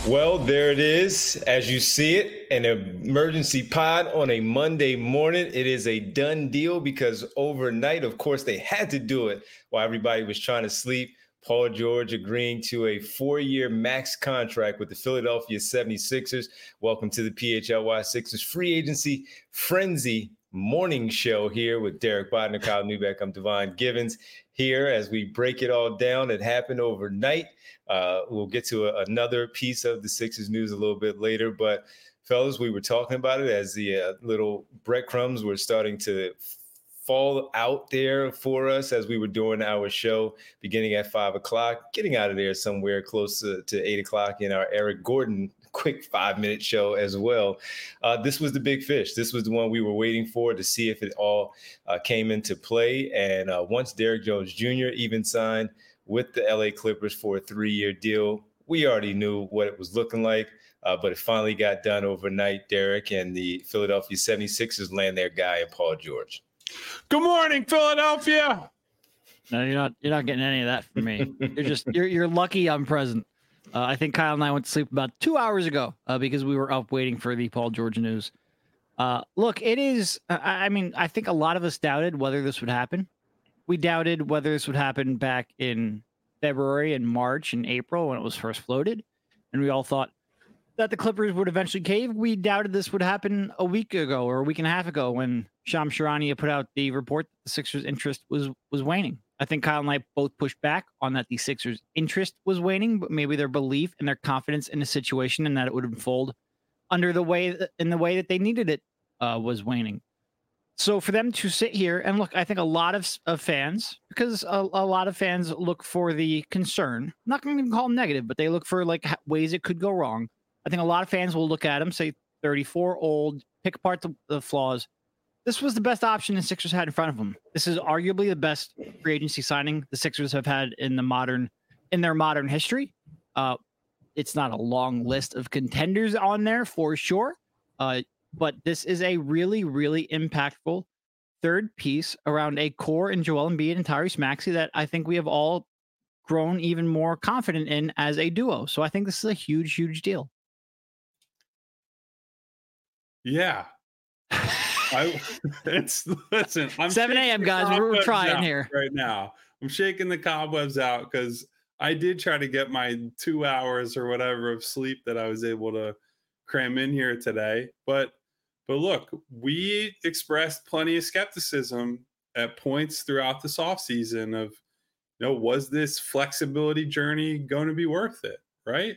Well, there it is. As you see it, an emergency pod on a Monday morning. It is a done deal because overnight, of course, they had to do it while everybody was trying to sleep. Paul George agreeing to a 4-year max contract with the Philadelphia 76ers. Welcome to the PHLY Sixers Free Agency Frenzy morning show here with Derek Bodner, Kyle Neubeck. I'm Devon Givens here as we break it all down. It happened overnight. We'll get to another piece of the Sixers news a little bit later. But, fellas, we were talking about it as the little breadcrumbs were starting to fall out there for us as we were doing our show beginning at 5 o'clock, getting out of there somewhere close to 8 o'clock in our Eric Gordon quick 5-minute show as well. This was the big fish. This was the one we were waiting for to see if it all came into play. And once Derrick Jones Jr. even signed with the LA Clippers for a 3-year deal, we already knew what it was looking like. But it finally got done overnight, Derek, and the Philadelphia 76ers land their guy in Paul George. Good morning, Philadelphia. No, you're not getting any of that from me. You're lucky I'm present. I think Kyle and I went to sleep about 2 hours ago because we were up waiting for the Paul George news. Look, it is. I think a lot of us doubted whether this would happen. We doubted whether this would happen back in February and March and April when it was first floated, and we all thought that the Clippers would eventually cave. We doubted this would happen a week ago or a week and a half ago when Shams Charania put out the report that the Sixers' interest was waning. I think Kyle and I both pushed back on that the Sixers' interest was waning, but maybe their belief and their confidence in the situation and that it would unfold in the way that they needed it was waning. So for them to sit here and look, I think a lot of fans, because a lot of fans look for the concern. I'm not going to even call them negative, but they look for like ways it could go wrong. I think a lot of fans will look at him, say 34, old, pick apart the flaws. This was the best option the Sixers had in front of them. This is arguably the best free agency signing the Sixers have had in their modern history. It's not a long list of contenders on there for sure, but this is a really, really impactful third piece around a core in Joel Embiid and Tyrese Maxey that I think we have all grown even more confident in as a duo. So I think this is a huge, huge deal. Yeah. Listen, I'm 7 a.m. guys. We're trying here right now. I'm shaking the cobwebs out because I did try to get my 2 hours or whatever of sleep that I was able to cram in here today. But look, we expressed plenty of skepticism at points throughout this offseason of, was this flexibility journey going to be worth it, right?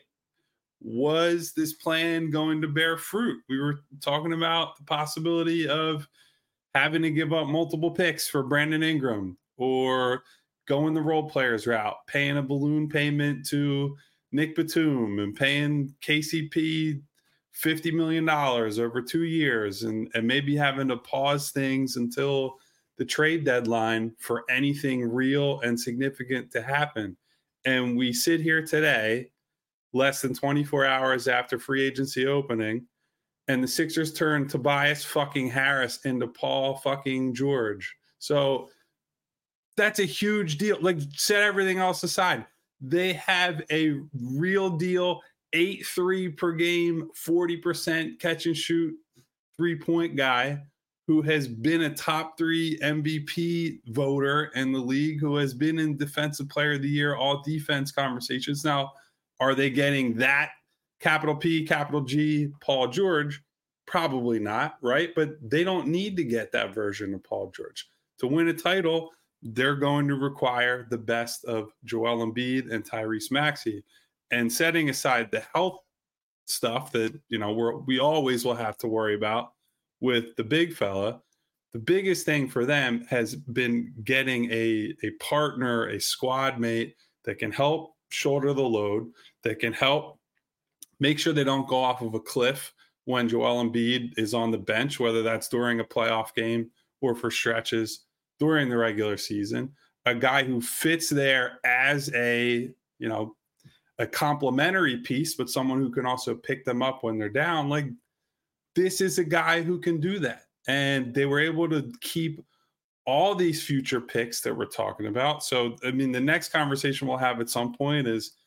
Was this plan going to bear fruit? We were talking about the possibility of having to give up multiple picks for Brandon Ingram or going the role players route, paying a balloon payment to Nick Batum and paying KCP $50 million over 2 years and maybe having to pause things until the trade deadline for anything real and significant to happen. And we sit here today, less than 24 hours after free agency opening, and the Sixers turn Tobias fucking Harris into Paul fucking George. So that's a huge deal. Like, set everything else aside. They have a real deal, 8-3 per game, 40% catch and shoot 3-point guy who has been a top 3 MVP voter in the league, who has been in Defensive Player of the Year, all defense conversations. Now, are they getting that capital P, capital G, Paul George? Probably not, right? But they don't need to get that version of Paul George. To win a title, they're going to require the best of Joel Embiid and Tyrese Maxey. And setting aside the health stuff that, we always will have to worry about with the big fella, the biggest thing for them has been getting a partner, a squad mate that can help shoulder the load, that can help make sure they don't go off of a cliff when Joel Embiid is on the bench, whether that's during a playoff game or for stretches during the regular season. A guy who fits there as a complementary piece, but someone who can also pick them up when they're down. Like, this is a guy who can do that. And they were able to keep all these future picks that we're talking about. So, the next conversation we'll have at some point is,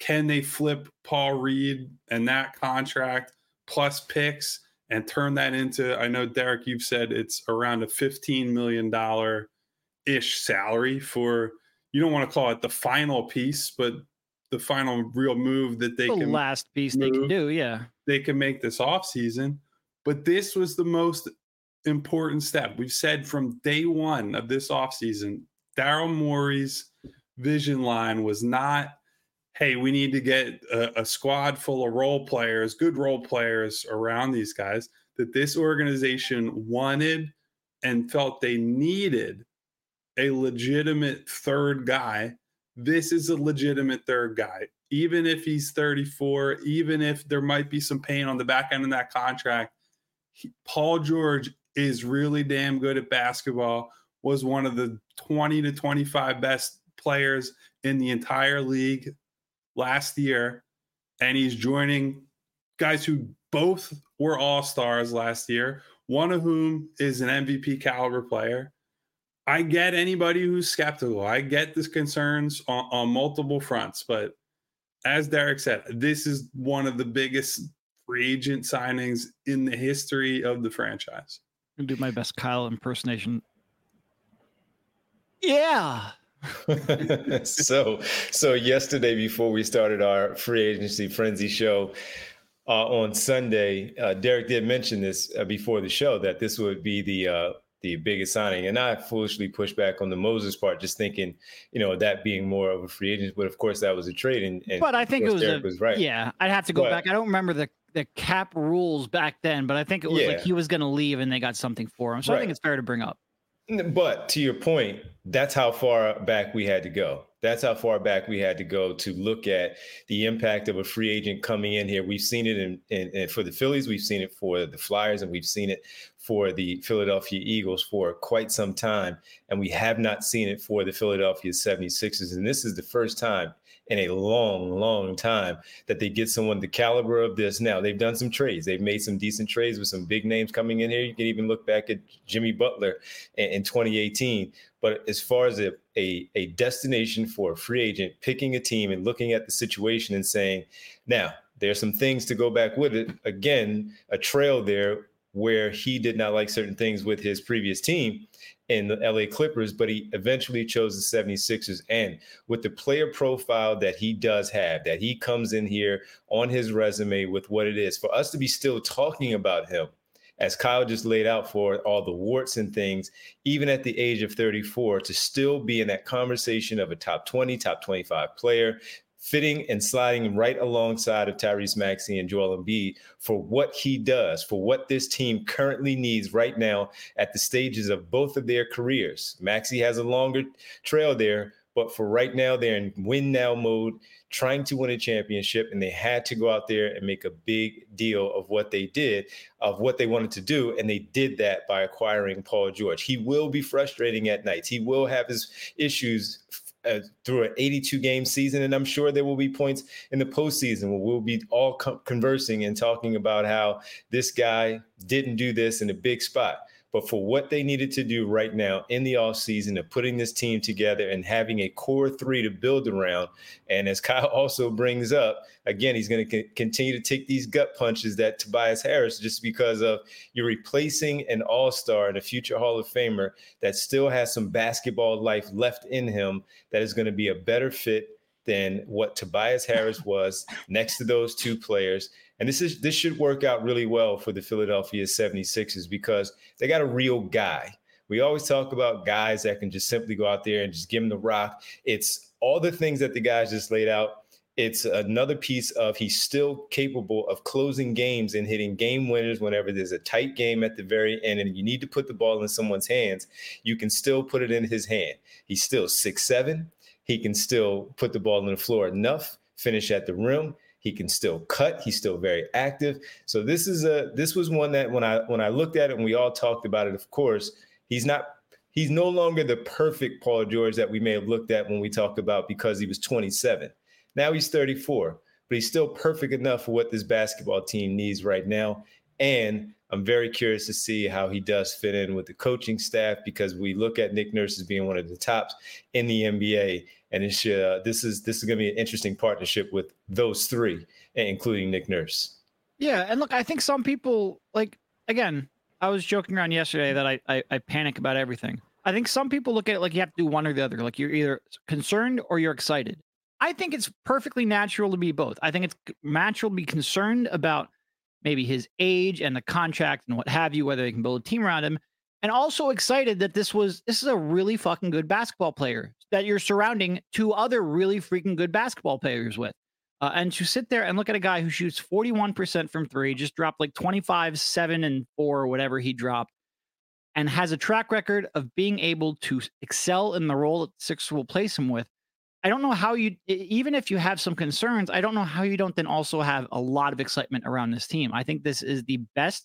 can they flip Paul Reed and that contract plus picks and turn that into, I know, Derek, you've said it's around a $15 million-ish salary for, you don't want to call it the final piece, but the final real move that they The last piece they can do, yeah. They can make this offseason. But this was the most important step. We've said from day one of this offseason, Daryl Morey's vision line was not, hey, we need to get a squad full of role players, good role players around these guys, that this organization wanted and felt they needed a legitimate third guy. This is a legitimate third guy. Even if he's 34, even if there might be some pain on the back end of that contract, Paul George is really damn good at basketball, was one of the 20 to 25 best players in the entire league last year, and he's joining guys who both were all-stars last year, one of whom is an MVP caliber player. I get anybody who's skeptical. I get the concerns on multiple fronts, but as Derek said, this is one of the biggest free agent signings in the history of the franchise. I'm gonna do my best Kyle impersonation. Yeah. So yesterday, before we started our free agency frenzy show on Sunday, Derek did mention this before the show, that this would be the biggest signing, and I foolishly pushed back on the Moses part, just thinking, that being more of a free agent. But of course, that was a trade, and but I think Derek was right. Yeah, I'd have to go back. I don't remember the cap rules back then, but I think it was like he was going to leave, and they got something for him. So I think it's fair to bring up. But to your point, that's how far back we had to go. That's how far back we had to go to look at the impact of a free agent coming in here. We've seen it in for the Phillies. We've seen it for the Flyers, and we've seen it for the Philadelphia Eagles for quite some time. And we have not seen it for the Philadelphia 76ers. And this is the first time in a long, long time that they get someone the caliber of this. Now, they've done some trades. They've made some decent trades with some big names coming in here. You can even look back at Jimmy Butler in 2018. But as far as a destination for a free agent, picking a team and looking at the situation and saying, now, there's some things to go back with it. Again, a trail there where he did not like certain things with his previous team in the LA Clippers, but he eventually chose the 76ers. And with the player profile that he does have, that he comes in here on his resume with what it is, for us to be still talking about him, as Kyle just laid out, for all the warts and things, even at the age of 34, to still be in that conversation of a top 20, top 25 player, fitting and sliding right alongside of Tyrese Maxey and Joel Embiid for what he does, for what this team currently needs right now at the stages of both of their careers. Maxey has a longer trail there, but for right now, they're in win now mode, trying to win a championship, and they had to go out there and make a big deal of what they did, of what they wanted to do, and they did that by acquiring Paul George. He will be frustrating at nights. He will have his issues through an 82-game season, and I'm sure there will be points in the postseason where we'll be all conversing and talking about how this guy didn't do this in a big spot. But for what they needed to do right now in the offseason of putting this team together and having a core three to build around, and as Kyle also brings up, again, he's going to continue to take these gut punches that Tobias Harris, just because of you're replacing an all-star and a future Hall of Famer that still has some basketball life left in him, that is going to be a better fit than what Tobias Harris was next to those two players. And this should work out really well for the Philadelphia 76ers because they got a real guy. We always talk about guys that can just simply go out there and just give him the rock. It's all the things that the guys just laid out. It's another piece of he's still capable of closing games and hitting game winners whenever there's a tight game at the very end and you need to put the ball in someone's hands. You can still put it in his hand. He's still 6'7". He can still put the ball on the floor enough, finish at the rim. He can still cut. He's still very active. So this was one that when I looked at it and we all talked about it, of course, he's no longer the perfect Paul George that we may have looked at when we talked about because he was 27. Now he's 34, but he's still perfect enough for what this basketball team needs right now. And I'm very curious to see how he does fit in with the coaching staff, because we look at Nick Nurse as being one of the tops in the NBA. And this is going to be an interesting partnership with those three, including Nick Nurse. Yeah, and look, I think some people, like, again, I was joking around yesterday that I panic about everything. I think some people look at it like you have to do one or the other. Like you're either concerned or you're excited. I think it's perfectly natural to be both. I think it's natural to be concerned about maybe his age and the contract and what have you, whether they can build a team around him, and also excited that this is a really fucking good basketball player that you're surrounding two other really freaking good basketball players with. And to sit there and look at a guy who shoots 41% from three, just dropped like 25, 7, and 4, or whatever he dropped, and has a track record of being able to excel in the role that the Sixers will place him with. I don't know how you, even if you have some concerns, I don't know how you don't then also have a lot of excitement around this team. I think this is the best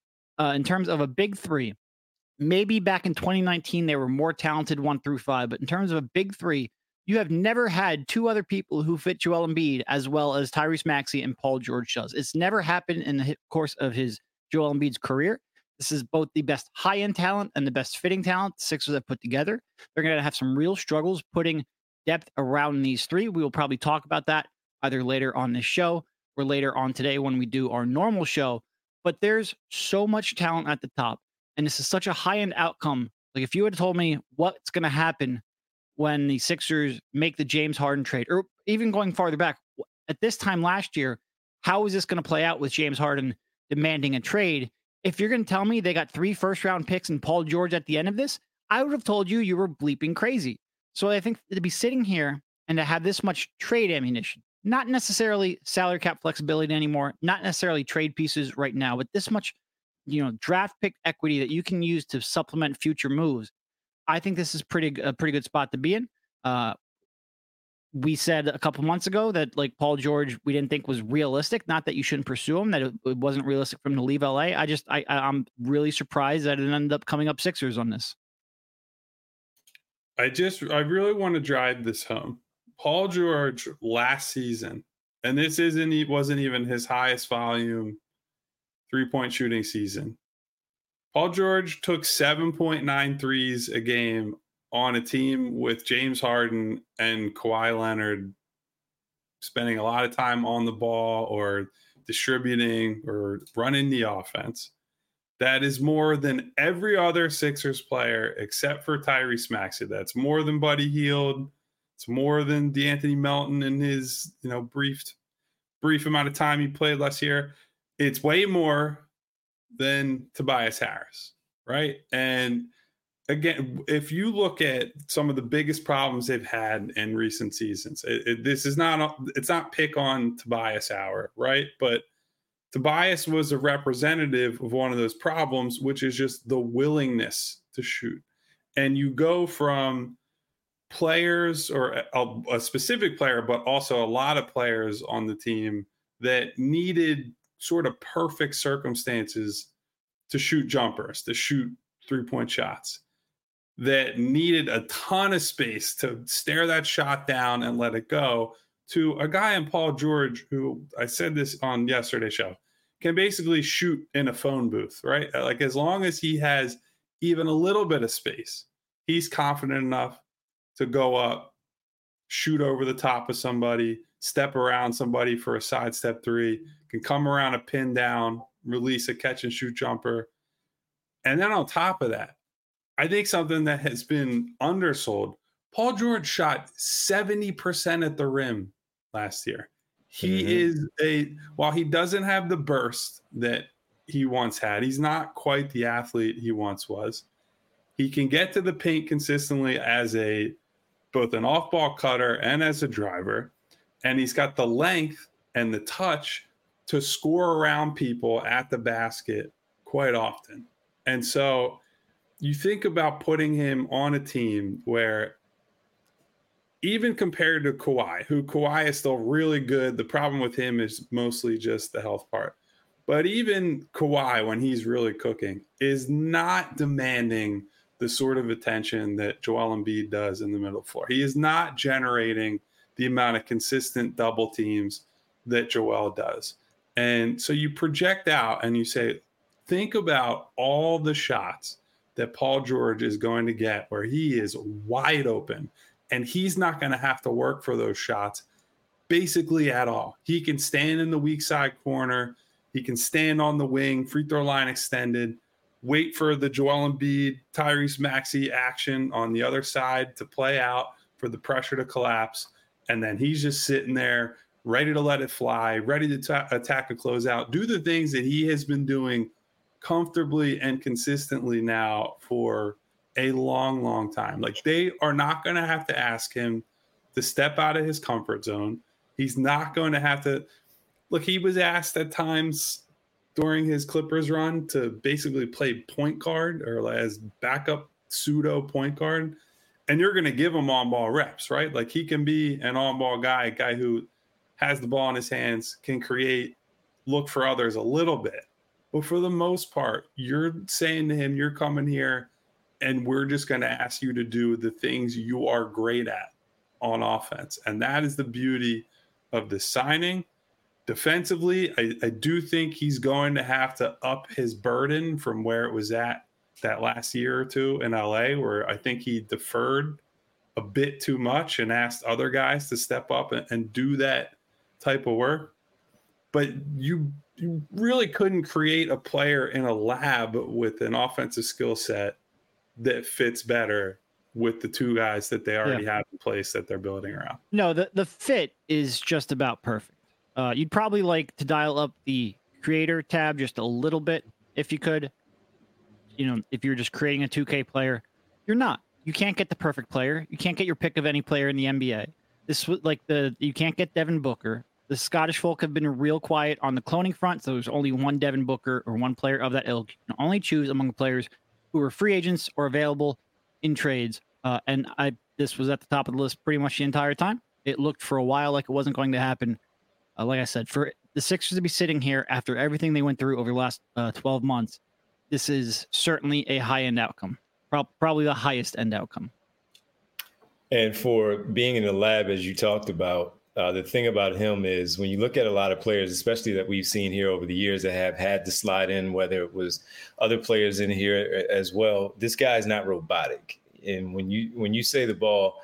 in terms of a big three. Maybe back in 2019, they were more talented 1 through 5, but in terms of a big three, you have never had two other people who fit Joel Embiid as well as Tyrese Maxey and Paul George does. It's never happened in the course of his Joel Embiid's career. This is both the best high-end talent and the best fitting talent the Sixers have put together. They're going to have some real struggles putting depth around these three. We will probably talk about that either later on this show or later on today when we do our normal show. But there's so much talent at the top, and this is such a high-end outcome. Like if you had told me what's going to happen when the Sixers make the James Harden trade, or even going farther back, at this time last year, how is this going to play out with James Harden demanding a trade? If you're going to tell me they got 3 first-round picks and Paul George at the end of this, I would have told you were bleeping crazy. So I think to be sitting here and to have this much trade ammunition, not necessarily salary cap flexibility anymore, not necessarily trade pieces right now, but this much, draft pick equity that you can use to supplement future moves, I think this is a pretty good spot to be in. We said a couple months ago that like Paul George, we didn't think was realistic. Not that you shouldn't pursue him, that it wasn't realistic for him to leave LA. I'm really surprised that it ended up coming up Sixers on this. I really want to drive this home. Paul George last season, and this wasn't even his highest volume 3-point shooting season. Paul George took 7.9 threes a game on a team with James Harden and Kawhi Leonard spending a lot of time on the ball or distributing or running the offense. That is more than every other Sixers player except for Tyrese Maxey. That's more than Buddy Hield. It's more than DeAnthony Melton in his brief amount of time he played last year. It's way more than Tobias Harris, right? And again, if you look at some of the biggest problems they've had in recent seasons, it's not pick on Tobias hour, right? But Tobias was a representative of one of those problems, which is just the willingness to shoot. And you go from players or a specific player, but also a lot of players on the team that needed sort of perfect circumstances to shoot jumpers, to shoot 3-point shots, that needed a ton of space to stare that shot down and let it go, to a guy in Paul George, who I said this on yesterday's show, can basically shoot in a phone booth, right? Like as long as he has even a little bit of space, he's confident enough to go up, shoot over the top of somebody, step around somebody for a sidestep 3, can come around a pin down, release a catch and shoot jumper. And then on top of that, I think something that has been undersold, Paul George shot 70% at the rim last year. He is while he doesn't have the burst that he once had, he's not quite the athlete he once was. He can get to the paint consistently as both an off-ball cutter and as a driver. And he's got the length and the touch to score around people at the basket quite often. And so you think about putting him on a team where, even compared to Kawhi is still really good. The problem with him is mostly just the health part. But even Kawhi, when he's really cooking, is not demanding the sort of attention that Joel Embiid does in the middle floor. He is not generating the amount of consistent double teams that Joel does. And so you project out and you say, think about all the shots that Paul George is going to get where he is wide open, and he's not going to have to work for those shots basically at all. He can stand in the weak side corner. He can stand on the wing, free throw line extended, wait for the Joel Embiid, Tyrese Maxey action on the other side to play out for the pressure to collapse. And then he's just sitting there ready to let it fly, ready to attack a closeout, do the things that he has been doing comfortably and consistently now for a long, long time. Like, they are not going to have to ask him to step out of his comfort zone. He's not going to have to look. He was asked at times during his Clippers run to basically play point guard or as backup pseudo point guard. And you're going to give him on-ball reps, right? Like, he can be an on-ball guy, a guy who has the ball in his hands, can create, look for others a little bit. But for the most part, you're saying to him, you're coming here, and we're just going to ask you to do the things you are great at on offense. And that is the beauty of the signing. Defensively, I do think he's going to have to up his burden from where it was at that last year or two in LA, where I think he deferred a bit too much and asked other guys to step up and do that type of work. But you really couldn't create a player in a lab with an offensive skill set that fits better with the two guys that they already have in place that they're building around. No, the fit is just about perfect. You'd probably like to dial up the creator tab just a little bit if you could. You know, if you're just creating a 2K player, you're not. You can't get the perfect player. You can't get your pick of any player in the NBA. This was like you can't get Devin Booker. The Scottish folk have been real quiet on the cloning front, so there's only one Devin Booker or one player of that ilk. You can only choose among players who are free agents or available in trades. And this was at the top of the list pretty much the entire time. It looked for a while like it wasn't going to happen. Like I said, for the Sixers to be sitting here after everything they went through over the last 12 months, this is certainly a high-end outcome, probably the highest-end outcome. And for being in the lab, as you talked about, the thing about him is when you look at a lot of players, especially that we've seen here over the years that have had to slide in, whether it was other players in here as well, this guy is not robotic. And when you say the ball,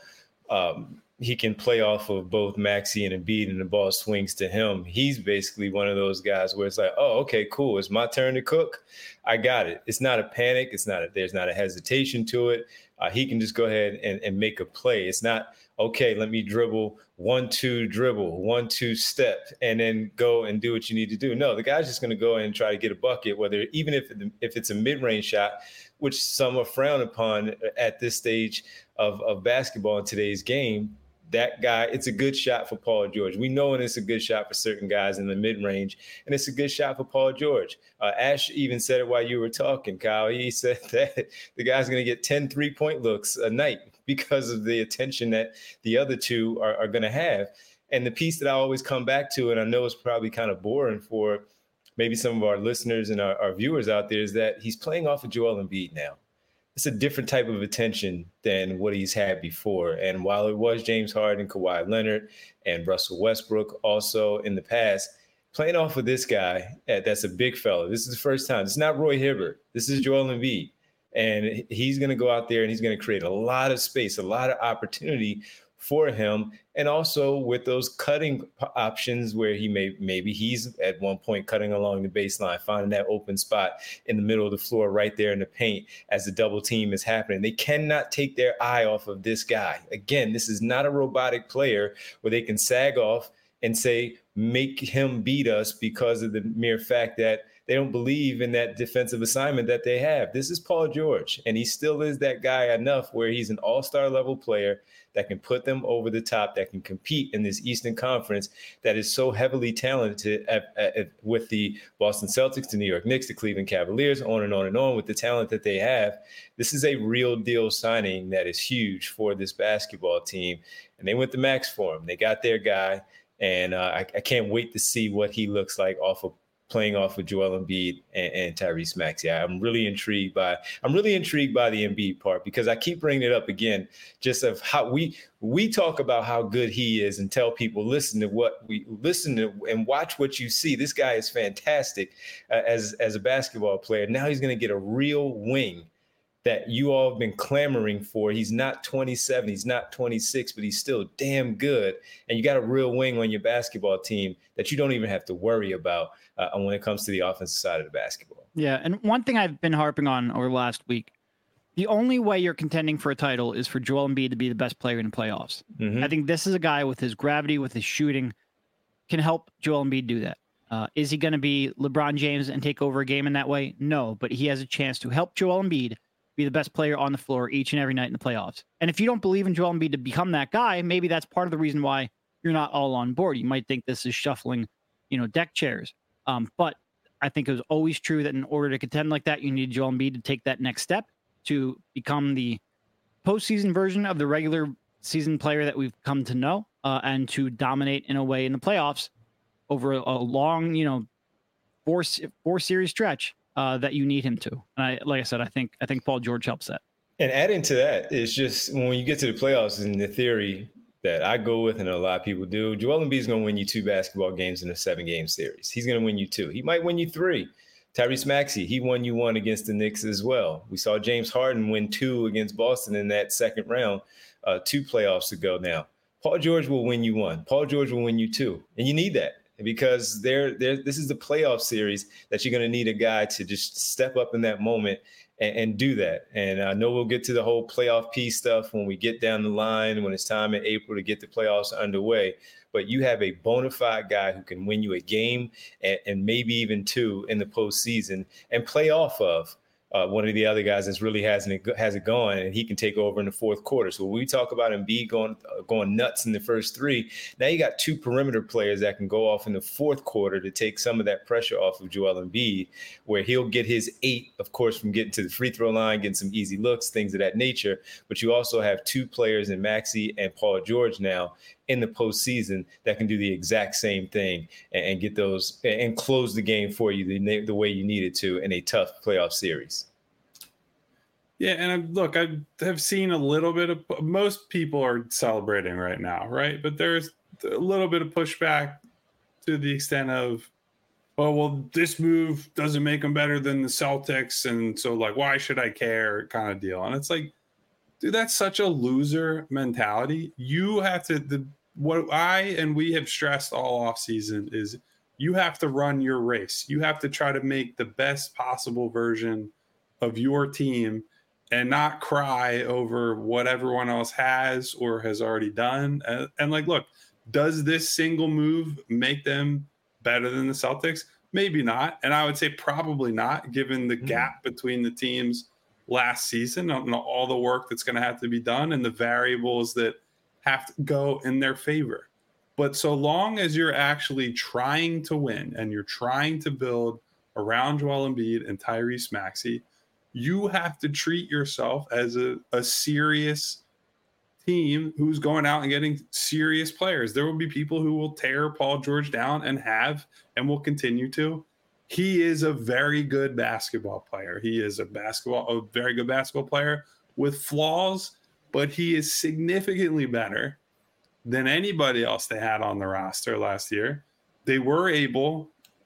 he can play off of both Maxey and Embiid and the ball swings to him. He's basically one of those guys where it's like, oh, okay, cool. It's my turn to cook. I got it. It's not a panic. There's not a hesitation to it. He can just go ahead and make a play. It's not, okay, let me dribble 1-2 dribble, 1-2 step, and then go and do what you need to do. No, the guy's just going to go in and try to get a bucket, whether even if it's a mid-range shot, which some are frowned upon at this stage of basketball in today's game. That guy, it's a good shot for Paul George. We know when it's a good shot for certain guys in the mid-range, and it's a good shot for Paul George. Ash even said it while you were talking, Kyle. He said that the guy's going to get 10 3-point looks a night because of the attention that the other two are going to have. And the piece that I always come back to, and I know it's probably kind of boring for maybe some of our listeners and our viewers out there, is that he's playing off of Joel Embiid now. It's a different type of attention than what he's had before. And while it was James Harden, Kawhi Leonard, and Russell Westbrook also in the past, playing off of this guy, that's a big fella. This is the first time. It's not Roy Hibbert. This is Joel Embiid. And he's going to go out there and he's going to create a lot of space, a lot of opportunity for him. And also with those cutting options where maybe he's at one point cutting along the baseline, finding that open spot in the middle of the floor right there in the paint as the double team is happening. They cannot take their eye off of this guy. Again, this is not a robotic player where they can sag off and say, make him beat us because of the mere fact that they don't believe in that defensive assignment that they have. This is Paul George, and he still is that guy enough where he's an all-star level player that can put them over the top, that can compete in this Eastern Conference that is so heavily talented with the Boston Celtics, the New York Knicks, the Cleveland Cavaliers, on and on and on with the talent that they have. This is a real deal signing that is huge for this basketball team. And they went the max for him. They got their guy, and I can't wait to see what he looks like off of playing off of Joel Embiid and Tyrese Maxey. I'm really intrigued by the Embiid part, because I keep bringing it up again, just of how we talk about how good he is and tell people, listen to and watch what you see. This guy is fantastic as a basketball player. Now he's going to get a real wing that you all have been clamoring for. He's not 27, he's not 26, but he's still damn good. And you got a real wing on your basketball team that you don't even have to worry about when it comes to the offensive side of the basketball. Yeah, and one thing I've been harping on over the last week, the only way you're contending for a title is for Joel Embiid to be the best player in the playoffs. I think this is a guy with his gravity, with his shooting, can help Joel Embiid do that. Is he going to be LeBron James and take over a game in that way? No, but he has a chance to help Joel Embiid be the best player on the floor each and every night in the playoffs. And if you don't believe in Joel Embiid to become that guy, maybe that's part of the reason why you're not all on board. You might think this is shuffling, deck chairs. But I think it was always true that in order to contend like that, you need Joel Embiid to take that next step to become the postseason version of the regular season player that we've come to know, and to dominate in a way in the playoffs over a long, four series stretch. That you need him to. And like I said, I think Paul George helps that. And adding to that is just when you get to the playoffs, in the theory that I go with and a lot of people do, Joel Embiid is going to win you 2 basketball games in a 7-game series. He's going to win you 2. He might win you 3. Tyrese Maxey, he won you 1 against the Knicks as well. We saw James Harden win 2 against Boston in that second round 2 playoffs ago now. Paul George will win you 1. Paul George will win you 2. And you need that, because this is the playoff series that you're going to need a guy to just step up in that moment and do that. And I know we'll get to the whole playoff piece stuff when we get down the line, when it's time in April to get the playoffs underway. But you have a bona fide guy who can win you a game and maybe even 2 in the postseason and play off of one of the other guys that really has it going, and he can take over in the fourth quarter. So when we talk about Embiid going nuts in the first 3, now you got 2 perimeter players that can go off in the fourth quarter to take some of that pressure off of Joel Embiid, where he'll get his 8, of course, from getting to the free throw line, getting some easy looks, things of that nature. But you also have 2 players in Maxey and Paul George now in the postseason that can do the exact same thing and get those and close the game for you the way you need it to in a tough playoff series. Yeah, and look, I have seen a little bit of, most people are celebrating right now, right? But there's a little bit of pushback to the extent of, oh, well, this move doesn't make them better than the Celtics, and so, like, why should I care kind of deal. And it's like, dude, that's such a loser mentality. You have to, what I and we have stressed all offseason is you have to run your race. You have to try to make the best possible version of your team and not cry over what everyone else has or has already done. And like, look, does this single move make them better than the Celtics? Maybe not. And I would say probably not, given the gap between the teams last season and all the work that's going to have to be done and the variables that have to go in their favor. But so long as you're actually trying to win and you're trying to build around Joel Embiid and Tyrese Maxey, you have to treat yourself as a serious team who's going out and getting serious players. There will be people who will tear Paul George down and will continue to. He is a very good basketball player. He is a very good basketball player with flaws, but he is significantly better than anybody else they had on the roster last year. They were able,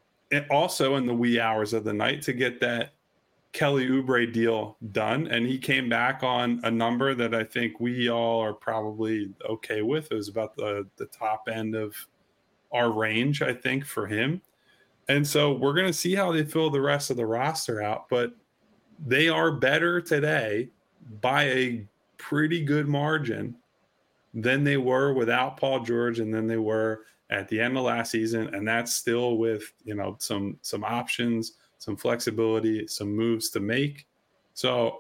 also in the wee hours of the night, to get that Kelly Oubre deal done, and he came back on a number that I think we all are probably okay with. It was about the top end of our range, I think, for him. And so we're going to see how they fill the rest of the roster out, but they are better today by a pretty good margin than they were without Paul George and than they were at the end of last season. And that's still with, some options, some flexibility, some moves to make. So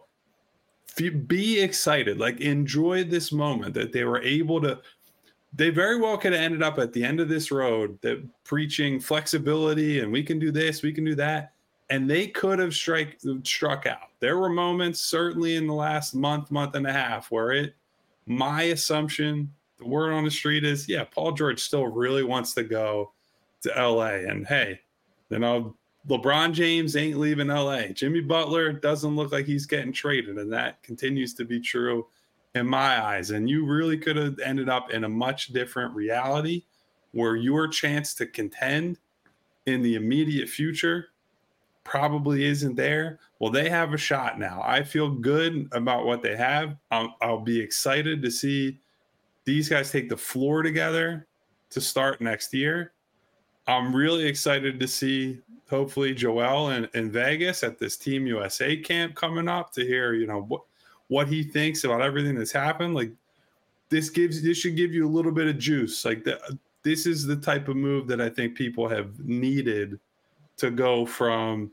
be excited, like enjoy this moment that they were able to. They very well could have ended up at the end of this road that preaching flexibility and we can do this, we can do that. And they could have struck out. There were moments certainly in the last month and a half where my assumption, the word on the street is, yeah, Paul George still really wants to go to LA. And hey, LeBron James ain't leaving LA. Jimmy Butler doesn't look like he's getting traded, and that continues to be true in my eyes. And you really could have ended up in a much different reality where your chance to contend in the immediate future probably isn't there. Well, they have a shot now. I feel good about what they have. I'll be excited to see these guys take the floor together to start next year. I'm really excited to see, hopefully, Joel in Vegas at this Team USA camp coming up to hear, what he thinks about everything that's happened. Like this should give you a little bit of juice. Like this is the type of move that I think people have needed to go from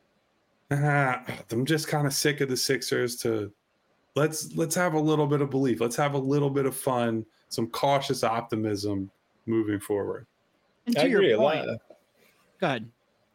I'm just kind of sick of the Sixers to let's have a little bit of belief. Let's have a little bit of fun, some cautious optimism moving forward. And to your point, go ahead.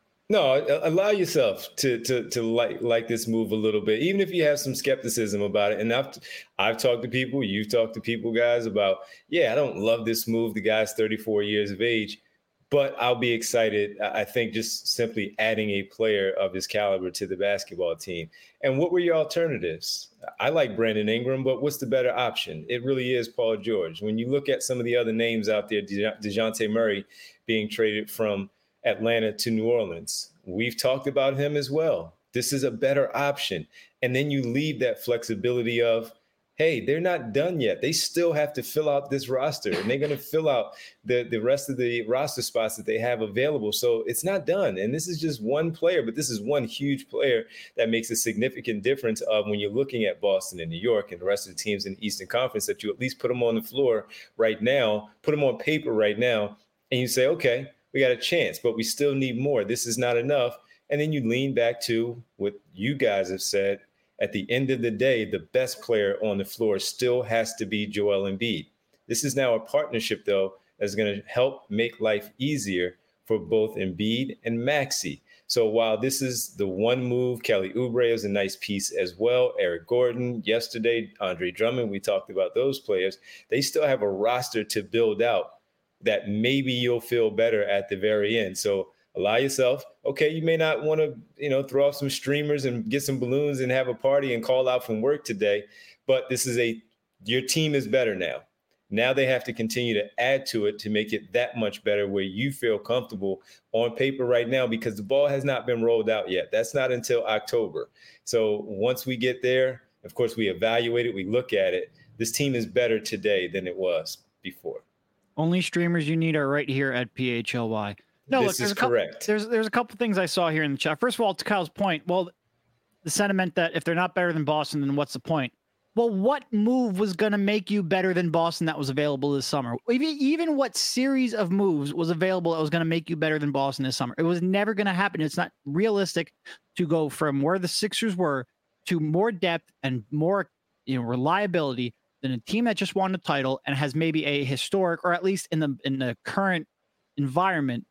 No, allow yourself to like this move a little bit, even if you have some skepticism about it. And I've talked to people, you've talked to people, guys, about, I don't love this move. The guy's 34 years of age, but I'll be excited. I think just simply adding a player of his caliber to the basketball team. And what were your alternatives? I like Brandon Ingram, but what's the better option? It really is Paul George. When you look at some of the other names out there, DeJounte Murray being traded from Atlanta to New Orleans, we've talked about him as well. This is a better option. And then you leave that flexibility of, hey, they're not done yet. They still have to fill out this roster, and they're going to fill out the rest of the roster spots that they have available. So it's not done. And this is just one player, but this is one huge player that makes a significant difference of when you're looking at Boston and New York and the rest of the teams in the Eastern Conference, that you at least put them on the floor right now, put them on paper right now, and you say, okay, we got a chance, but we still need more. This is not enough. And then you lean back to what you guys have said. At the end of the day, the best player on the floor still has to be Joel Embiid. This is now a partnership, though, that's going to help make life easier for both Embiid and Maxey. So while this is the one move, Kelly Oubre is a nice piece as well. Eric Gordon, yesterday, Andre Drummond, we talked about those players. They still have a roster to build out that maybe you'll feel better at the very end. So allow yourself, okay, you may not want to, throw off some streamers and get some balloons and have a party and call out from work today, but your team is better now. Now they have to continue to add to it to make it that much better where you feel comfortable on paper right now, because the ball has not been rolled out yet. That's not until October. So once we get there, of course, we evaluate it, we look at it. This team is better today than it was before. Only streamers you need are right here at PHLY. No, this is correct. There's a couple things I saw here in the chat. First of all, to Kyle's point, well, the sentiment that if they're not better than Boston, then what's the point? Well, what move was going to make you better than Boston that was available this summer? Even what series of moves was available that was going to make you better than Boston this summer? It was never going to happen. It's not realistic to go from where the Sixers were to more depth and more reliability than a team that just won the title and has maybe a historic, or at least in the current environment,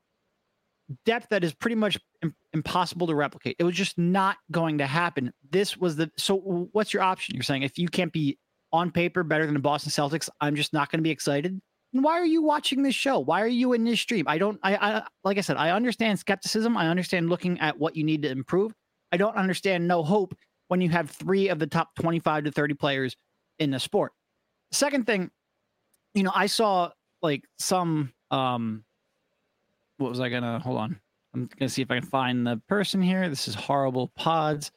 depth that is pretty much impossible to replicate. It was just not going to happen. So what's your option? You're saying if you can't be on paper better than the Boston Celtics, I'm just not going to be excited. And why are you watching this show? Why are you in this stream? I like I said, I understand skepticism. I understand looking at what you need to improve. I don't understand no hope when you have 3 of the top 25 to 30 players in the sport. Second thing, I saw like some, what was I gonna, hold on. I'm gonna see if I can find the person here. This is horrible pods.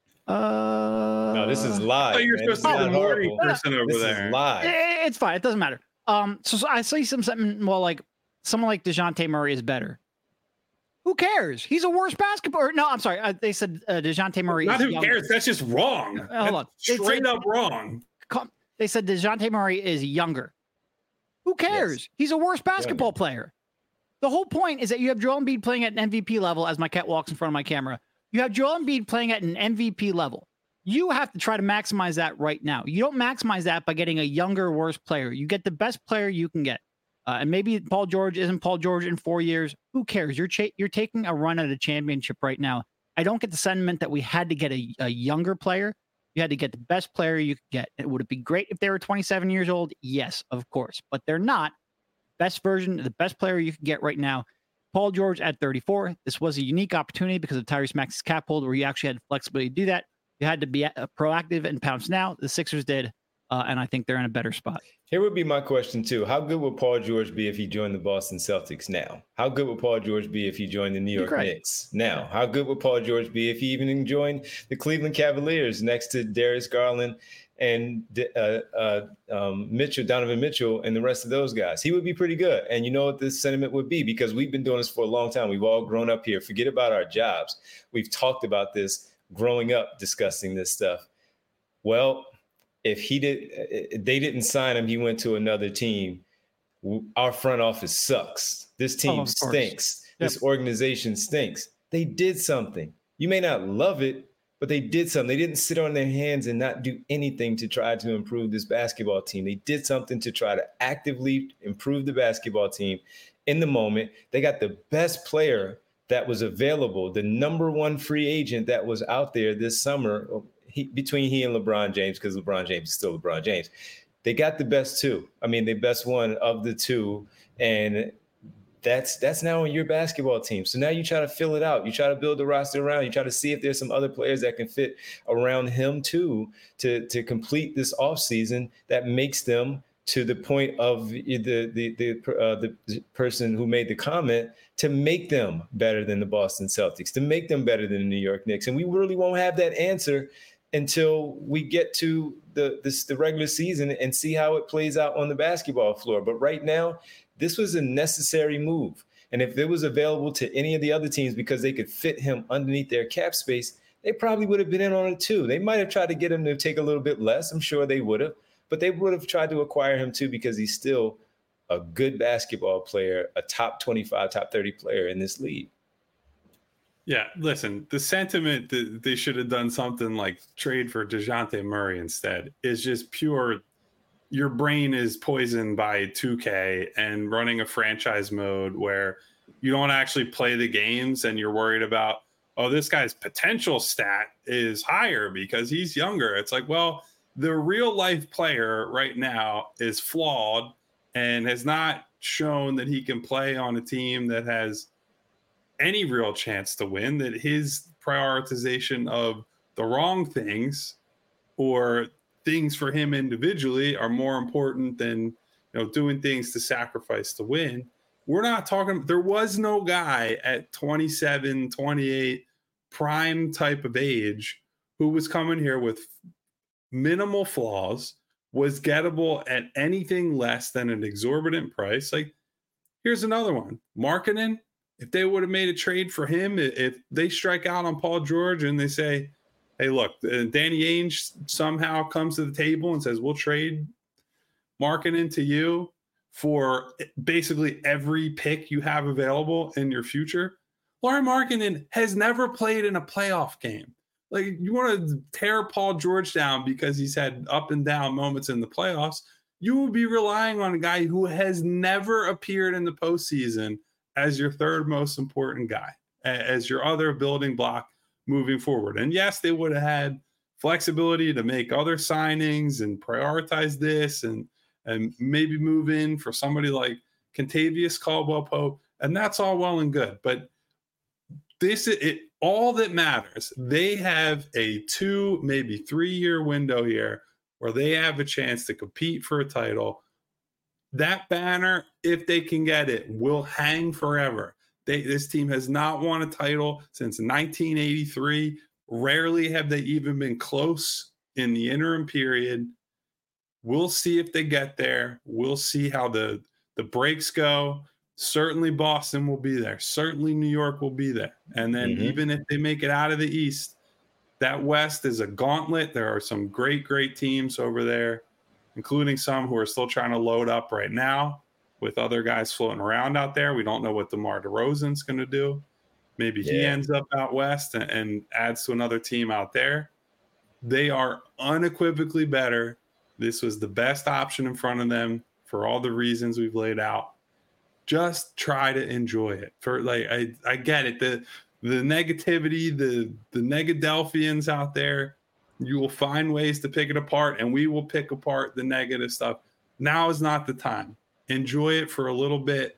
No, this is live. Oh, you're supposed to be the morning person over this there. Is live. It's fine. It doesn't matter. So I see something, well, like someone like DeJounte Murray is better. Who cares? He's a worse basketball. No, I'm sorry. They said DeJounte Murray Not is who younger. cares. That's just wrong. Hold on. Straight up wrong. They said DeJounte Murray is younger. Who cares? Yes. He's a worse basketball player. The whole point is that you have Joel Embiid playing at an MVP level, as my cat walks in front of my camera. You have Joel Embiid playing at an MVP level. You have to try to maximize that right now. You don't maximize that by getting a younger, worse player. You get the best player you can get. And maybe Paul George isn't Paul George in 4 years. Who cares? You're taking a run at a championship right now. I don't get the sentiment that we had to get a younger player. You had to get the best player you could get. Would it be great if they were 27 years old? Yes, of course. But they're not. Best version, the best player you can get right now Paul George at 34. This was a unique opportunity because of Tyrese Maxey's cap hold where you actually had flexibility to do that. You had to be proactive and pounce now. The Sixers did, and I think they're in a better spot. Here would be my question, too. How good would Paul George be if he joined the Boston Celtics now? How good would Paul George be if he joined the New York Knicks now? How good would Paul George be if he even joined the Cleveland Cavaliers next to Darius Garland and Donovan Mitchell, and the rest of those guys? He would be pretty good. And you know what this sentiment would be? Because we've been doing this for a long time. We've all grown up here. Forget about our jobs. We've talked about this growing up, discussing this stuff. Well, if they didn't sign him, he went to another team. Our front office sucks. This team stinks. Yep. This organization stinks. They did something. You may not love it, but they did something. They didn't sit on their hands and not do anything to try to improve this basketball team. They did something to try to actively improve the basketball team in the moment. They got the best player that was available, the number one free agent that was out there this summer, between he and LeBron James, because LeBron James is still LeBron James. They got the best two. I mean, the best one of the two. And that's now on your basketball team. So now you try to fill it out. You try to build the roster around. You try to see if there's some other players that can fit around him too to complete this offseason that makes them, to the point of the person who made the comment, to make them better than the Boston Celtics, to make them better than the New York Knicks. And we really won't have that answer until we get to the regular season and see how it plays out on the basketball floor. But right now, this was a necessary move. And if it was available to any of the other teams because they could fit him underneath their cap space, they probably would have been in on it too. They might have tried to get him to take a little bit less. I'm sure they would have. But they would have tried to acquire him too because he's still a good basketball player, a top 25, top 30 player in this league. Yeah, listen, the sentiment that they should have done something like trade for DeJounte Murray instead is just pure. Your brain is poisoned by 2K and running a franchise mode where you don't actually play the games and you're worried about, oh, this guy's potential stat is higher because he's younger. It's like, well, the real life player right now is flawed and has not shown that he can play on a team that has any real chance to win, that his prioritization of the wrong things or things for him individually are more important than, doing things to sacrifice to win. We're not talking, there was no guy at 27, 28, prime type of age who was coming here with minimal flaws, was gettable at anything less than an exorbitant price. Like, here's another one. Markkanen, if they would have made a trade for him, if they strike out on Paul George and they say, hey, look, Danny Ainge somehow comes to the table and says, we'll trade Markkanen to you for basically every pick you have available in your future. Lauri Markkanen has never played in a playoff game. Like, you want to tear Paul George down because he's had up and down moments in the playoffs. You will be relying on a guy who has never appeared in the postseason as your third most important guy, as your other building block moving forward. And yes, they would have had flexibility to make other signings and prioritize this and maybe move in for somebody like Kentavious Caldwell-Pope. And that's all well and good. But this is it. All that matters, they have a 2, maybe 3-year window here where they have a chance to compete for a title. That banner, if they can get it, will hang forever. This team has not won a title since 1983. Rarely have they even been close in the interim period. We'll see if they get there. We'll see how the breaks go. Certainly Boston will be there. Certainly New York will be there. And then even if they make it out of the East, that West is a gauntlet. There are some great, great teams over there, including some who are still trying to load up right now with other guys floating around out there. We don't know what DeMar DeRozan's going to do. Maybe he ends up out West and adds to another team out there. They are unequivocally better. This was the best option in front of them for all the reasons we've laid out. Just try to enjoy it. I get it. The negativity, the Negadelphians out there, you will find ways to pick it apart, and we will pick apart the negative stuff. Now is not the time. Enjoy it for a little bit.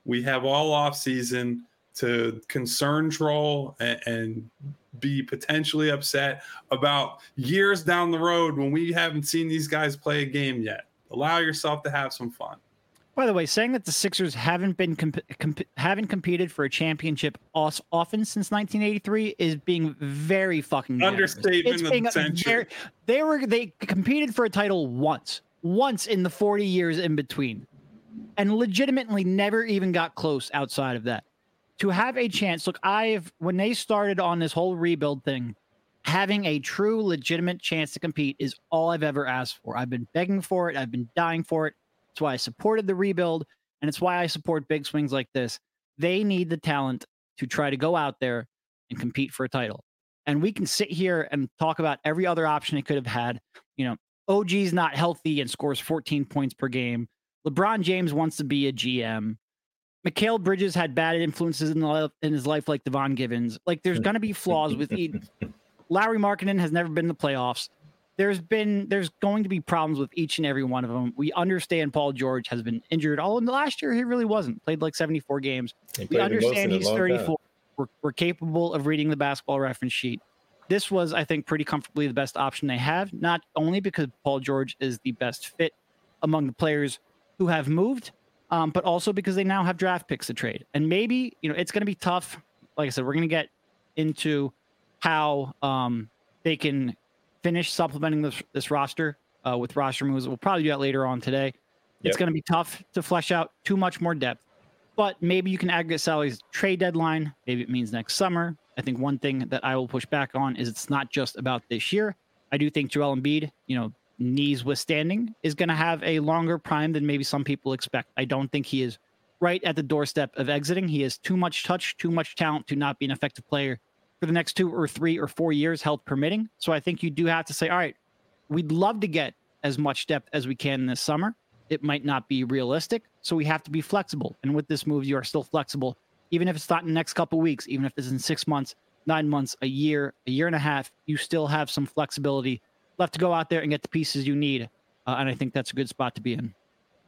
We have all off season to concern troll and be potentially upset about years down the road when we haven't seen these guys play a game yet. Allow yourself to have some fun. By the way, saying that the Sixers haven't been haven't competed for a championship often since 1983 is being very fucking generous. Understatement of the century. They competed for a title once in the 40 years in between, and legitimately never even got close outside of that. To have a chance, look, when they started on this whole rebuild thing, having a true legitimate chance to compete is all I've ever asked for. I've been begging for it. I've been dying for it. It's why I supported the rebuild, and it's why I support big swings like this. They need the talent to try to go out there and compete for a title. And we can sit here and talk about every other option it could have had. OG's not healthy and scores 14 points per game. LeBron James wants to be a GM. Mikal Bridges had bad influences in his life like Devon Givens. Like, there's going to be flaws with Lauri Markkanen has never been in the playoffs. There's going to be problems with each and every one of them. We understand Paul George has been injured. All in the last year, he really wasn't. Played like 74 games. We understand he's 34. We're capable of reading the basketball reference sheet. This was, I think, pretty comfortably the best option they have, not only because Paul George is the best fit among the players who have moved, but also because they now have draft picks to trade. And maybe, it's going to be tough. Like I said, we're going to get into how they can finish supplementing this roster with roster moves. We'll probably do that later on today. It's going to be tough to flesh out too much more depth, but maybe you can aggregate salaries trade deadline. Maybe it means next summer. I think one thing that I will push back on is it's not just about this year. I do think Joel Embiid, knees withstanding, is going to have a longer prime than maybe some people expect. I don't think he is right at the doorstep of exiting. He has too much touch, too much talent to not be an effective player for the next 2 or 3 or 4 years, health permitting. So I think you do have to say, all right, we'd love to get as much depth as we can this summer. It might not be realistic, so we have to be flexible. And with this move, you are still flexible, even if it's not in the next couple of weeks, even if it's in 6 months, 9 months, a year and a half, you still have some flexibility left to go out there and get the pieces you need. And I think that's a good spot to be in.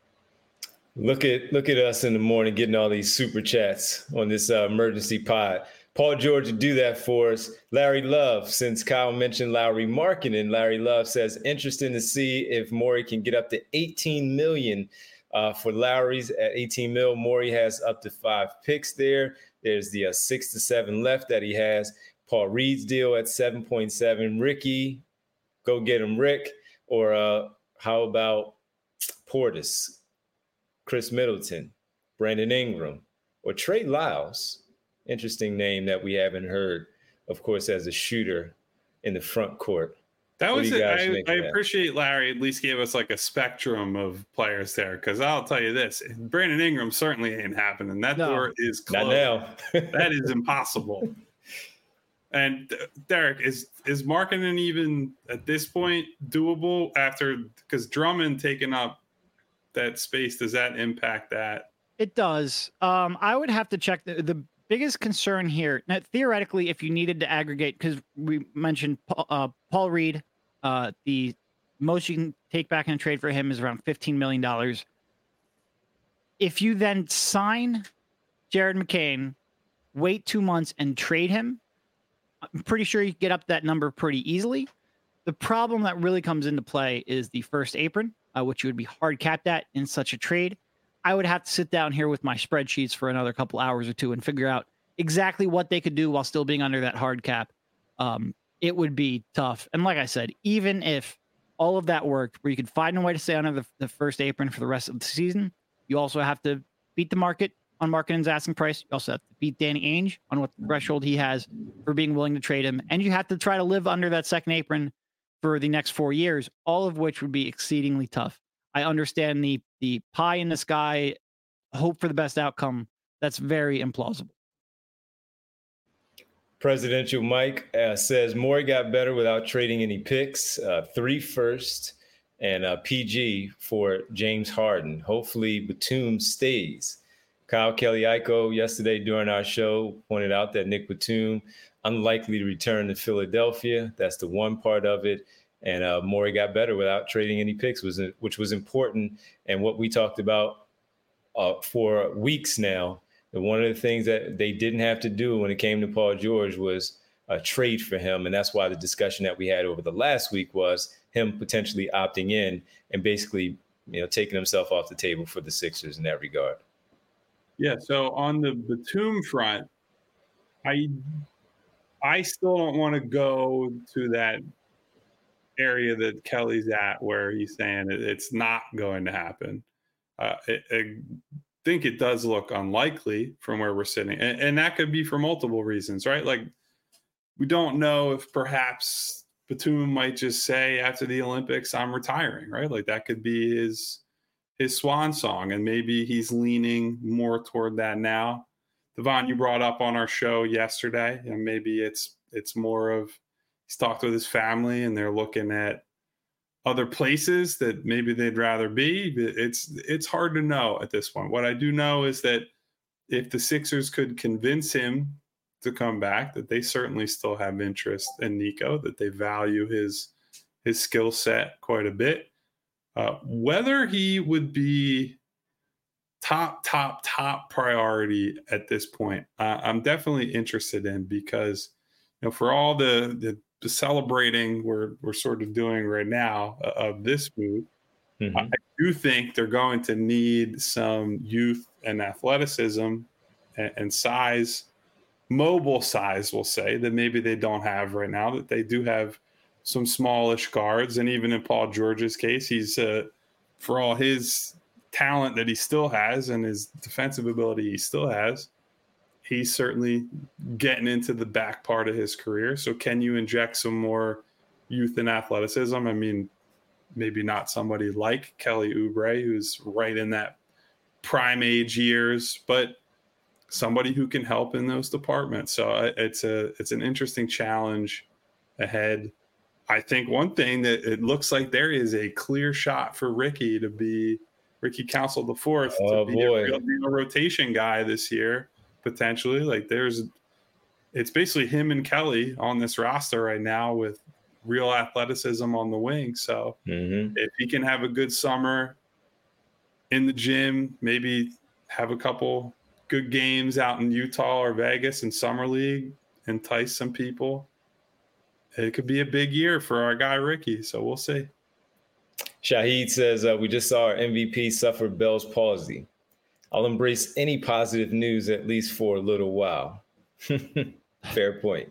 Look at us in the morning getting all these super chats on this emergency pod. Paul George to do that for us. Larry Love, since Kyle mentioned Lauri Markkanen, Larry Love says, interesting to see if Morey can get up to $18 million for Lowry's at $18 million. Morey has up to 5 picks there. There's the 6 to 7 left that he has. Paul Reed's deal at 7.7. Ricky, go get him, Rick. Or how about Portis, Chris Middleton, Brandon Ingram, or Trey Lyles? Interesting name that we haven't heard, of course, as a shooter in the front court. That was it. I appreciate Larry at least gave us like a spectrum of players there, because I'll tell you this, Brandon Ingram certainly ain't happening. That door is closed. Not now. That is impossible. And Derek, is Markkanen even at this point doable because Drummond taking up that space? Does that impact that? It does. I would have to check the biggest concern here. Now, theoretically, if you needed to aggregate, because we mentioned Paul Reed, the most you can take back in a trade for him is around $15 million. If you then sign Jared McCain, wait 2 months and trade him, I'm pretty sure you can get up that number pretty easily. The problem that really comes into play is the first apron, which you would be hard capped at in such a trade. I would have to sit down here with my spreadsheets for another couple hours or two and figure out exactly what they could do while still being under that hard cap. It would be tough. And like I said, even if all of that worked, where you could find a way to stay under the first apron for the rest of the season, you also have to beat the market on Markkanen's asking price. You also have to beat Danny Ainge on what threshold he has for being willing to trade him. And you have to try to live under that second apron for the next 4 years, all of which would be exceedingly tough. I understand the pie in the sky, hope for the best outcome. That's very implausible. Presidential Mike says Morey got better without trading any picks, 3 firsts and PG for James Harden. Hopefully Batum stays. Kyle Kelly-Iko yesterday during our show pointed out that Nick Batum unlikely to return to Philadelphia. That's the one part of it. And Morey got better without trading any picks, which was important. And what we talked about for weeks now. And one of the things that they didn't have to do when it came to Paul George was a trade for him. And that's why the discussion that we had over the last week was him potentially opting in and basically, taking himself off the table for the Sixers in that regard. Yeah. So on the Batum front, I still don't want to go to that area that Kelly's at where he's saying it's not going to happen. I think it does look unlikely from where we're sitting. And that could be for multiple reasons, right? Like, we don't know if perhaps Batum might just say after the Olympics, I'm retiring, right? Like, that could be his swan song. And maybe he's leaning more toward that now. Devon, you brought up on our show yesterday, and maybe it's more of he's talked with his family and they're looking at other places that maybe they'd rather be. It's hard to know at this point. What I do know is that if the Sixers could convince him to come back, that they certainly still have interest in Nico, that they value his skill set quite a bit. Whether he would be top priority at this point, I'm definitely interested in, because for all the celebrating we're sort of doing right now of this move, I do think they're going to need some youth and athleticism and size, mobile size, we'll say, that maybe they don't have right now, that they do have some smallish guards. And even in Paul George's case, he's for all his talent that he still has and his defensive ability he still has, he's certainly getting into the back part of his career. So can you inject some more youth and athleticism? I mean, maybe not somebody like Kelly Oubre, who's right in that prime age years, but somebody who can help in those departments. So it's an interesting challenge ahead. I think one thing that it looks like there is a clear shot for Ricky Council IV to be a real rotation guy this year, potentially. Like, it's basically him and Kelly on this roster right now with real athleticism on the wing. So if he can have a good summer in the gym, maybe have a couple good games out in Utah or Vegas in summer league, entice some people, it could be a big year for our guy Ricky. So we'll see. Shahid says, we just saw our MVP suffer Bell's palsy. I'll embrace any positive news, at least for a little while. Fair point.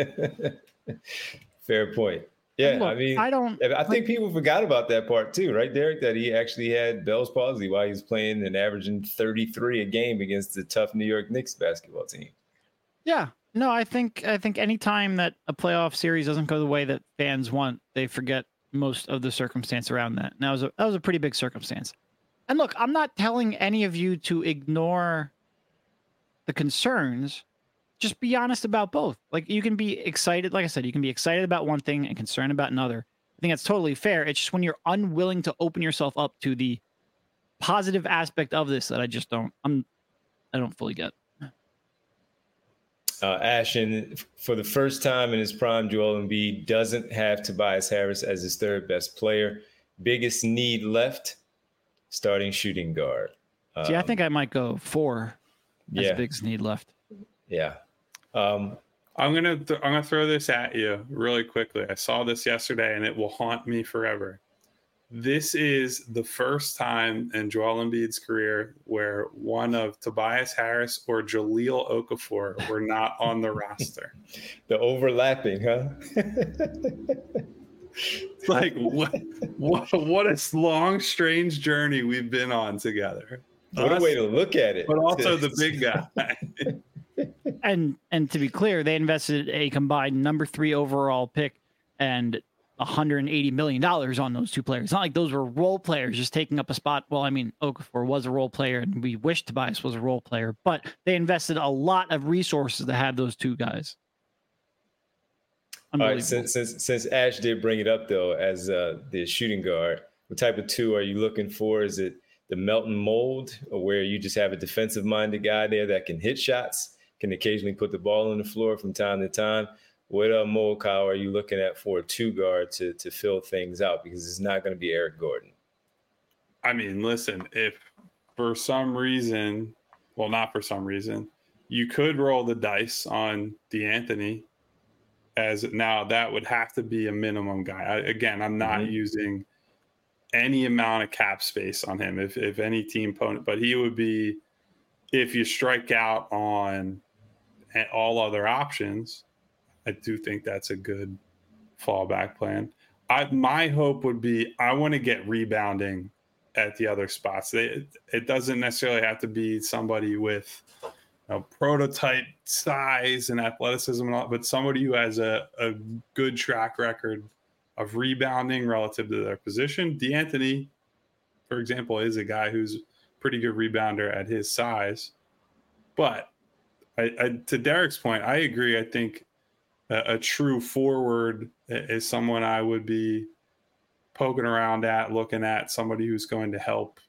Fair point. Yeah, look, I think people forgot about that part too, right, Derek? That he actually had Bell's palsy while he was playing and averaging 33 a game against the tough New York Knicks basketball team. Yeah. No, I think any time that a playoff series doesn't go the way that fans want, they forget most of the circumstance around that. And that was a pretty big circumstance. And look, I'm not telling any of you to ignore the concerns. Just be honest about both. Like, you can be excited. Like I said, you can be excited about one thing and concerned about another. I think that's totally fair. It's just when you're unwilling to open yourself up to the positive aspect of this that I don't fully get. Ashton, for the first time in his prime, Joel Embiid doesn't have Tobias Harris as his third best player. Biggest need left, starting shooting guard. See, I think I might go 4 as biggest need left. Yeah. I'm gonna throw this at you really quickly. I saw this yesterday, and it will haunt me forever. This is the first time in Joel Embiid's career where one of Tobias Harris or Jahlil Okafor were not on the roster. The overlapping, huh? Like, what a long, strange journey we've been on together. What a way to look at it. But also the big guy. And to be clear, they invested a combined number 3 overall pick and $180 million on those two players. It's not like those were role players just taking up a spot. Well, I mean, Okafor was a role player, and we wish Tobias was a role player, but they invested a lot of resources to have those two guys. All right, since Ash did bring it up, though, as the shooting guard, what type of 2 are you looking for? Is it the Melton mold, or where you just have a defensive-minded guy there that can hit shots, can occasionally put the ball on the floor from time to time? What mold, Kyle, are you looking at for a 2 guard to fill things out? Because it's not going to be Eric Gordon. I mean, listen, if for some reason, well, not for some reason, you could roll the dice on DeAnthony as now that would have to be a minimum guy. I'm not using any amount of cap space on him if any team opponent, but he would be, if you strike out on all other options, I do think that's a good fallback plan. My hope would be I want to get rebounding at the other spots. It doesn't necessarily have to be somebody with prototype size and athleticism and all, but somebody who has a good track record of rebounding relative to their position. DeAnthony, for example, is a guy who's a pretty good rebounder at his size. But to Derek's point, I agree. I think a true forward is someone I would be poking around at, looking at, somebody who's going to help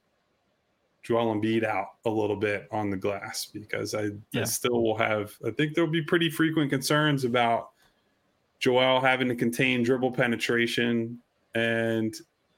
Joel Embiid out a little bit on the glass, because I still will have, I think there'll be pretty frequent concerns about Joel having to contain dribble penetration. And,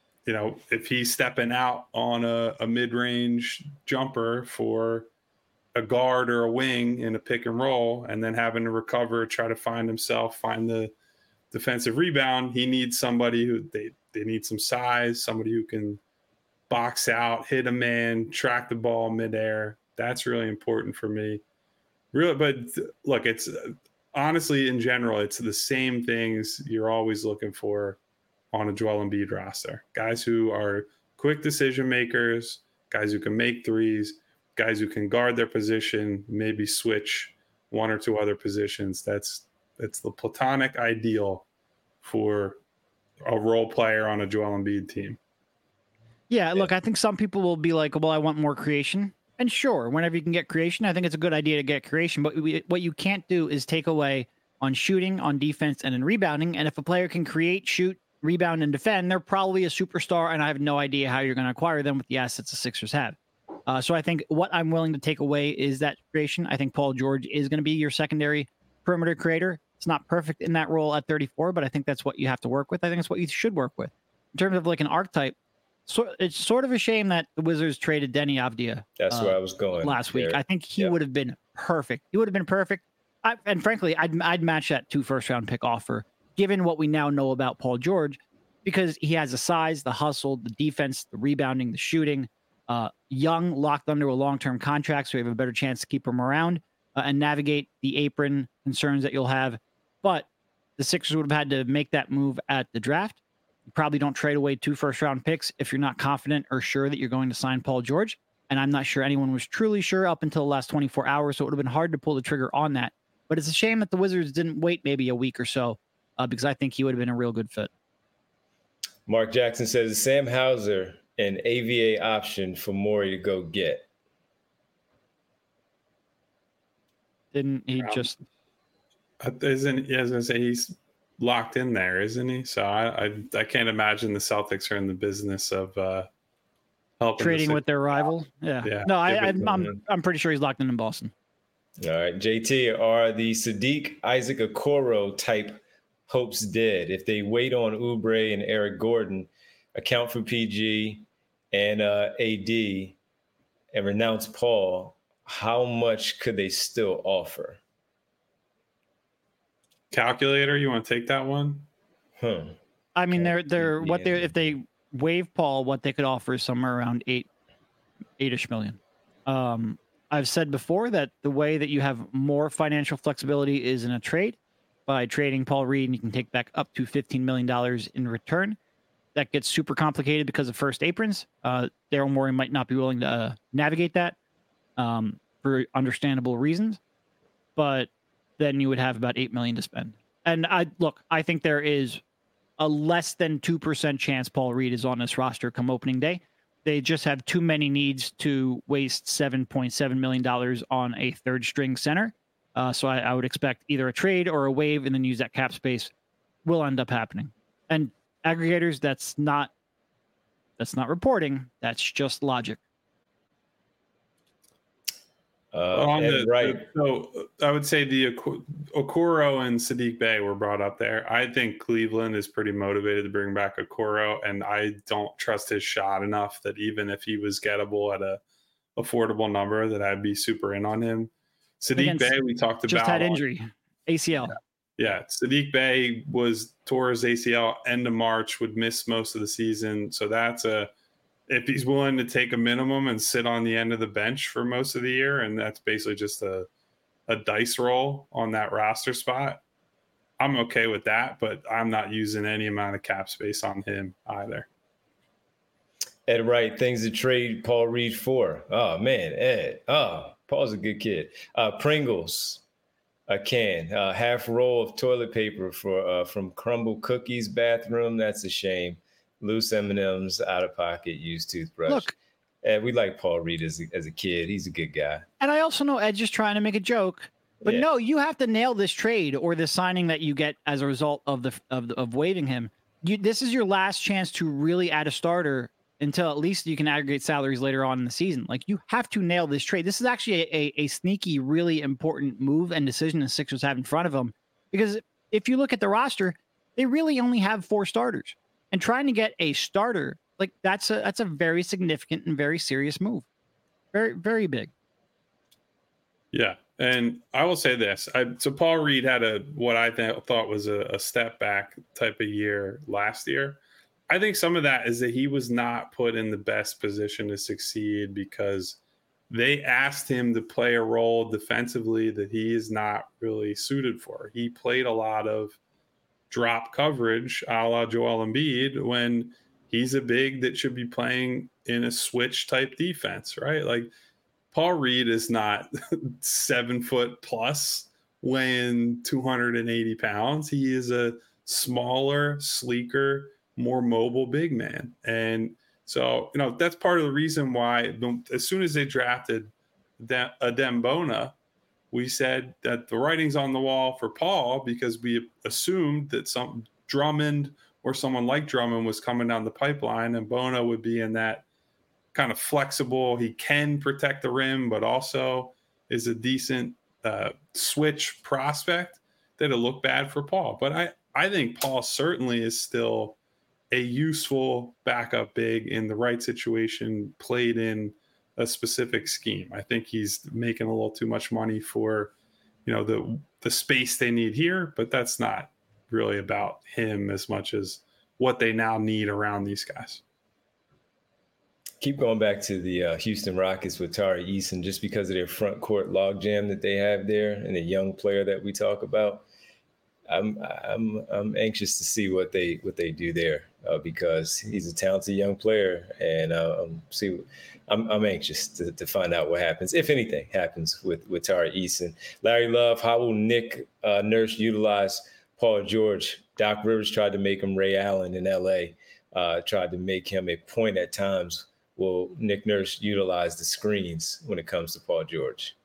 if he's stepping out on a mid-range jumper for a guard or a wing in a pick and roll, and then having to recover, try to find the defensive rebound, he needs somebody who they need some size, somebody who can box out, hit a man, track the ball midair. That's really important for me. Really, but look, it's honestly, in general, it's the same things you're always looking for on a Joel Embiid roster. Guys who are quick decision makers, guys who can make threes, guys who can guard their position, maybe switch one or two other positions. That's the platonic ideal for a role player on a Joel Embiid team. Yeah, look, I think some people will be like, well, I want more creation. And sure, whenever you can get creation, I think it's a good idea to get creation. But what you can't do is take away on shooting, on defense, and in rebounding. And if a player can create, shoot, rebound, and defend, they're probably a superstar. And I have no idea how you're going to acquire them with the assets the Sixers have. So I think what I'm willing to take away is that creation. I think Paul George is going to be your secondary perimeter creator. It's not perfect in that role at 34, but I think that's what you have to work with. I think it's what you should work with. In terms of like an archetype, so it's sort of a shame that the Wizards traded Deni Avdija. That's where I was going last week. I think he would have been perfect. He would have been perfect. And frankly, I'd match that 2 first-round pick offer, given what we now know about Paul George, because he has the size, the hustle, the defense, the rebounding, the shooting. Young, locked under a long-term contract, so we have a better chance to keep him around and navigate the apron concerns that you'll have. But the Sixers would have had to make that move at the draft. You probably don't trade away 2 first-round picks if you're not confident or sure that you're going to sign Paul George. And I'm not sure anyone was truly sure up until the last 24 hours, so it would have been hard to pull the trigger on that. But it's a shame that the Wizards didn't wait maybe a week or so, because I think he would have been a real good fit. Mark Jackson says, Sam Hauser an AVA option for Morey to go get? Didn't he just... Isn't, I was going to say, he's locked in there, isn't he? So I can't imagine the Celtics are in the business of helping trading with their rival. Yeah. No, I'm pretty sure he's locked in Boston. All right, JT, are the Sadiq Isaac Okoro type hopes dead if they wait on Oubre and Eric Gordon, account for PG and AD, and renounce Paul? How much could they still offer? Calculator, you want to take that one? I mean, if they waive Paul, what they could offer is somewhere around $8-ish million. I've said before that the way that you have more financial flexibility is in a trade. By trading Paul Reed, and you can take back up to $15 million in return. That gets super complicated because of first aprons. Daryl Morey might not be willing to navigate that for understandable reasons, but then you would have about $8 million to spend. And I think there is a less than 2% chance Paul Reed is on this roster come opening day. They just have too many needs to waste $7.7 million on a third string center. So I would expect either a trade or a waive and then use that cap space will end up happening. And aggregators, that's not reporting. That's just logic. Right. So I would say the Okoro and Sadiq Bey were brought up there. I think Cleveland is pretty motivated to bring back Okoro, and I don't trust his shot enough that even if he was gettable at a affordable number that I'd be super in on him. Sadiq Bey, we talked about. Just had injury, ACL. Yeah, Sadiq Bey tore his ACL end of March, would miss most of the season. So that's if he's willing to take a minimum and sit on the end of the bench for most of the year, and that's basically just a dice roll on that roster spot, I'm okay with that, but I'm not using any amount of cap space on him either. Ed Wright, things to trade Paul Reed for. Oh, man, Ed. Oh, Paul's a good kid. Pringles, a can, half roll of toilet paper from Crumble Cookies bathroom. That's a shame. Loose M&Ms, out of pocket, used toothbrush. Look, Ed, we like Paul Reed as a kid. He's a good guy. And I also know Ed's just trying to make a joke. But no, you have to nail this trade or the signing that you get as a result of waiving him. This is your last chance to really add a starter until at least you can aggregate salaries later on in the season. Like, you have to nail this trade. This is actually a sneaky, really important move and decision the Sixers have in front of them. Because if you look at the roster, they really only have 4 starters. And trying to get a starter, like, that's a very significant and very serious move. Very, very big. Yeah. And I will say this. So Paul Reed had what I thought was a step back type of year last year. I think some of that is that he was not put in the best position to succeed because they asked him to play a role defensively that he is not really suited for. He played a lot of drop coverage a la Joel Embiid when he's a big that should be playing in a switch type defense, right? Like, Paul Reed is not 7 foot plus, weighing 280 pounds. He is a smaller, sleeker, more mobile big man. And so, that's part of the reason why as soon as they drafted Adem Bona, we said that the writing's on the wall for Paul because we assumed that some Drummond or someone like Drummond was coming down the pipeline and Bona would be in that kind of flexible. He can protect the rim, but also is a decent switch prospect that'll look bad for Paul. But I think Paul certainly is still a useful backup big in the right situation, played in a specific scheme. I think he's making a little too much money for, the space they need here, but that's not really about him as much as what they now need around these guys. Keep going back to the Houston Rockets with Tari Eason, just because of their front court logjam that they have there and the young player that we talk about. I'm anxious to see what they do there because he's a talented young player, and I'm anxious to find out what happens, if anything happens with Tari Eason. Larry Love, how will Nick Nurse utilize Paul George? Doc Rivers tried to make him Ray Allen in L.A., tried to make him a point at times. Will Nick Nurse utilize the screens when it comes to Paul George?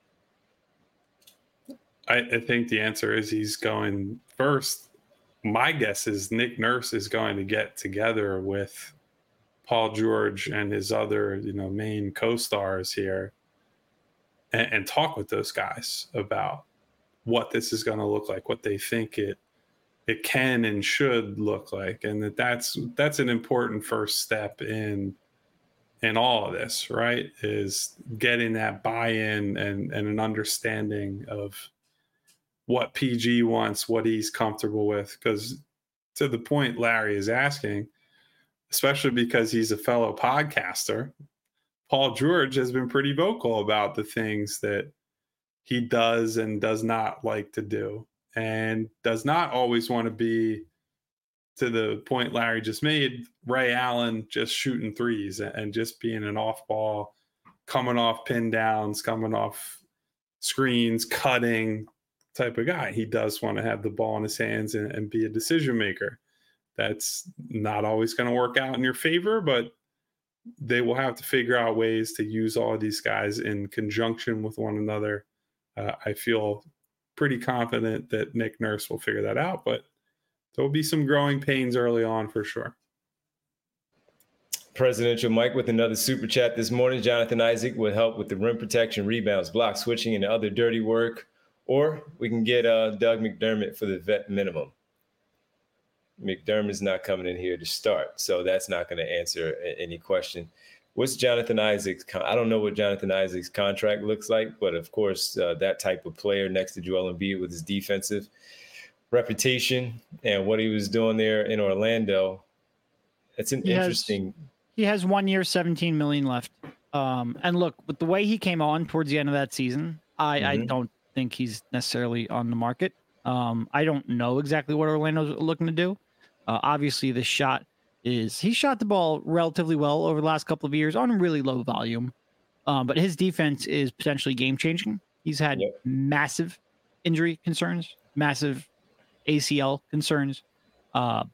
I think the answer is he's going first. My guess is Nick Nurse is going to get together with Paul George and his other, main co-stars here and talk with those guys about what this is going to look like, what they think it can and should look like. And that's an important first step in all of this, right? Is getting that buy-in and an understanding of what PG wants, what he's comfortable with. Because to the point Larry is asking, especially because he's a fellow podcaster, Paul George has been pretty vocal about the things that he does and does not like to do, and does not always want to be, to the point Larry just made, Ray Allen just shooting threes and just being an off ball, coming off pin downs, coming off screens, cutting type of guy. He does want to have the ball in his hands and be a decision maker. That's not always going to work out in your favor, but they will have to figure out ways to use all of these guys in conjunction with one another. I feel pretty confident that Nick Nurse will figure that out, but there will be some growing pains early on for sure. Presidential Mike with another super chat this morning. Jonathan Isaac would help with the rim protection, rebounds, block switching, and other dirty work. Or we can get Doug McDermott for the vet minimum. McDermott's not coming in here to start, so that's not going to answer any question. What's Jonathan Isaac's? I don't know what Jonathan Isaac's contract looks like, but of course, that type of player next to Joel Embiid with his defensive reputation and what he was doing there in Orlando, it's an interesting. He has 1 year, $17 million left. And look, with the way he came on towards the end of that season, I don't think he's necessarily on the market. I don't know exactly what Orlando's looking to do. Obviously, the shot is he shot the ball relatively well over the last couple of years on really low volume. But his defense is potentially game changing. He's had massive injury concerns, massive ACL concerns. The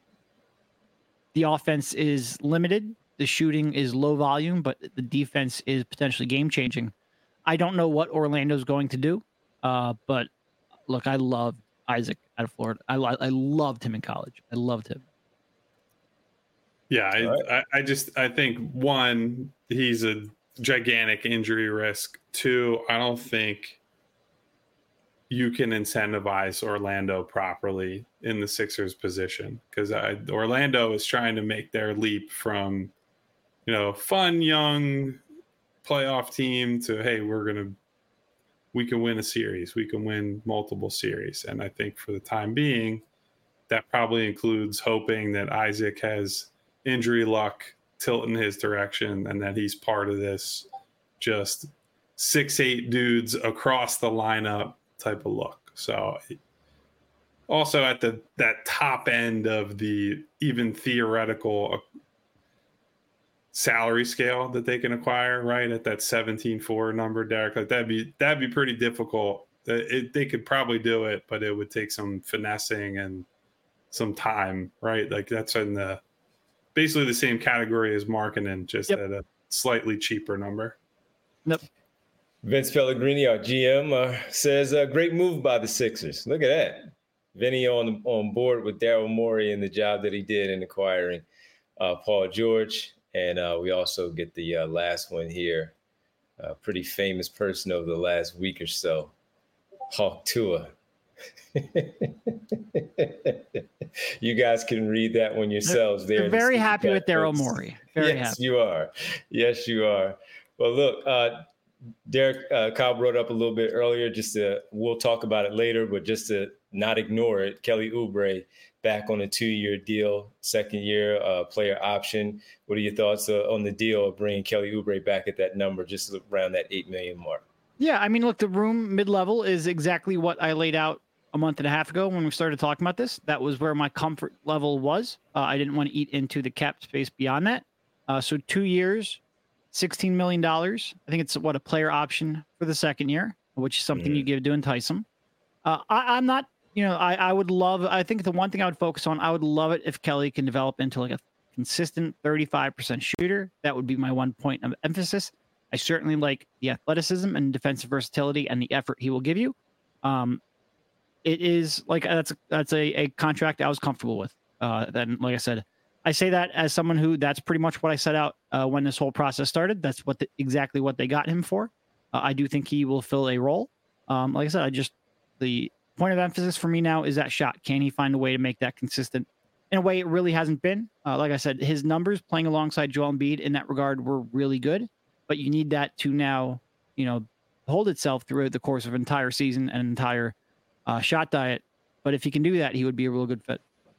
offense is limited. The shooting is low volume, but the defense is potentially game changing. I don't know what Orlando's going to do. But look, I love Isaac out of Florida. I loved him in college. I loved him. Yeah, I think one, he's a gigantic injury risk. Two, I don't think you can incentivize Orlando properly in the Sixers position, because Orlando is trying to make their leap from, fun young playoff team to, hey, we can win a series, we can win multiple series. And I think for the time being, that probably includes hoping that Isaac has injury luck tilt in his direction and that he's part of this just 6'8" dudes across the lineup type of look. So also at that top end of the even theoretical salary scale that they can acquire, right at that 17.4 number, Derek, like that'd be pretty difficult. They could probably do it, but it would take some finessing and some time, right? Like that's in basically the same category as Markkanen, just at a slightly cheaper number. Yep. Vince Pellegrini, our GM, says a great move by the Sixers. Look at that. Vinny on board with Daryl Morey and the job that he did in acquiring Paul George. And we also get the last one here. A pretty famous person over the last week or so, Hawk Tua. You guys can read that one yourselves. They're very happy with Daryl Morey. Very happy. You are. Yes, you are. Well, look, Derek, Kyle brought up a little bit earlier, we'll talk about it later, but just to not ignore it, Kelly Oubre back on a 2-year deal, second-year player option. What are your thoughts on the deal of bringing Kelly Oubre back at that number, just around that $8 million mark? Yeah, I mean, look, the room mid-level is exactly what I laid out a month and a half ago when we started talking about this. That was where my comfort level was. I didn't want to eat into the cap space beyond that. So 2 years, $16 million. I think it's a player option for the second year, which is something you give to entice them. I'm not, I would love, I think the one thing I would focus on, I would love it if Kelly can develop into like a consistent 35% shooter. That would be my one point of emphasis. I certainly like the athleticism and defensive versatility and the effort he will give you. It is like, that's a contract I was comfortable with. Then, like I said, I say that as someone who that's pretty much what I set out when this whole process started. That's exactly what they got him for. I do think he will fill a role. Like I said, the point of emphasis for me now is that shot. Can he find a way to make that consistent in a way it really hasn't been? Like I said, his numbers playing alongside Joel Embiid in that regard were really good, but you need that to now, hold itself throughout the course of an entire season and entire shot diet. But if he can do that, he would be a real good fit.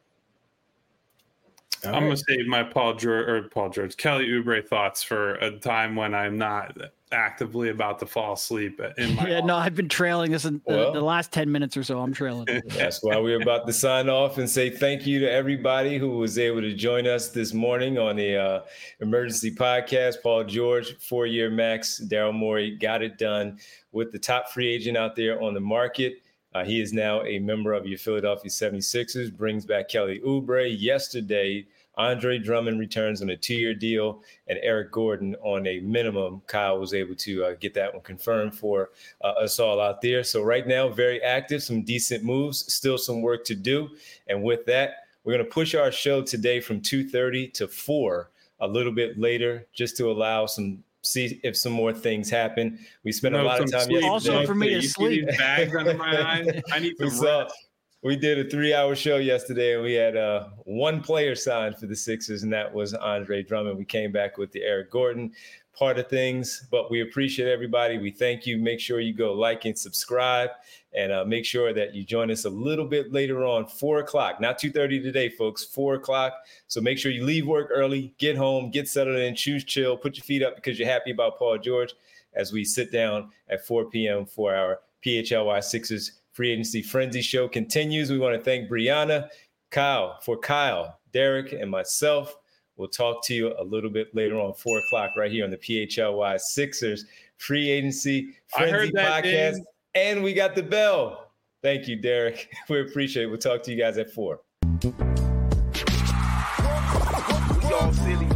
I'm going to save my Kelly Oubre thoughts for a time when I'm not actively about to fall asleep in my no, I've been trailing this in the last 10 minutes or so. I'm trailing. That's why we're about to sign off and say thank you to everybody who was able to join us this morning on the Emergency Podcast. Paul George, 4-year max. Daryl Morey got it done with the top free agent out there on the market. He is now a member of your Philadelphia 76ers, brings back Kelly Oubre. Yesterday, Andre Drummond returns on a 2-year deal, and Eric Gordon on a minimum. Kyle was able to get that one confirmed for us all out there. So right now, very active, some decent moves, still some work to do. And with that, we're going to push our show today from 2:30 to 4 a little bit later, just to allow see if some more things happen. We spent a lot of time yesterday. Also for me to sleep. Bags under my eyes. I need some rest. We did a 3-hour show yesterday, and we had one player signed for the Sixers, and that was Andre Drummond. We came back with the Eric Gordon part of things, but we appreciate everybody. We thank you. Make sure you go like and subscribe, and make sure that you join us a little bit later on, 4 o'clock, not 2:30 today, folks, 4 o'clock. So make sure you leave work early, get home, get settled in, choose chill, put your feet up because you're happy about Paul George as we sit down at 4 p.m. for our PHLY Sixers Free Agency Frenzy show continues. We want to thank Brianna, Kyle, Derek, and myself. We'll talk to you a little bit later on, 4 o'clock, right here on the PHLY Sixers Free Agency Frenzy podcast. Name. And we got the bell. Thank you, Derek. We appreciate it. We'll talk to you guys at 4. We all silly.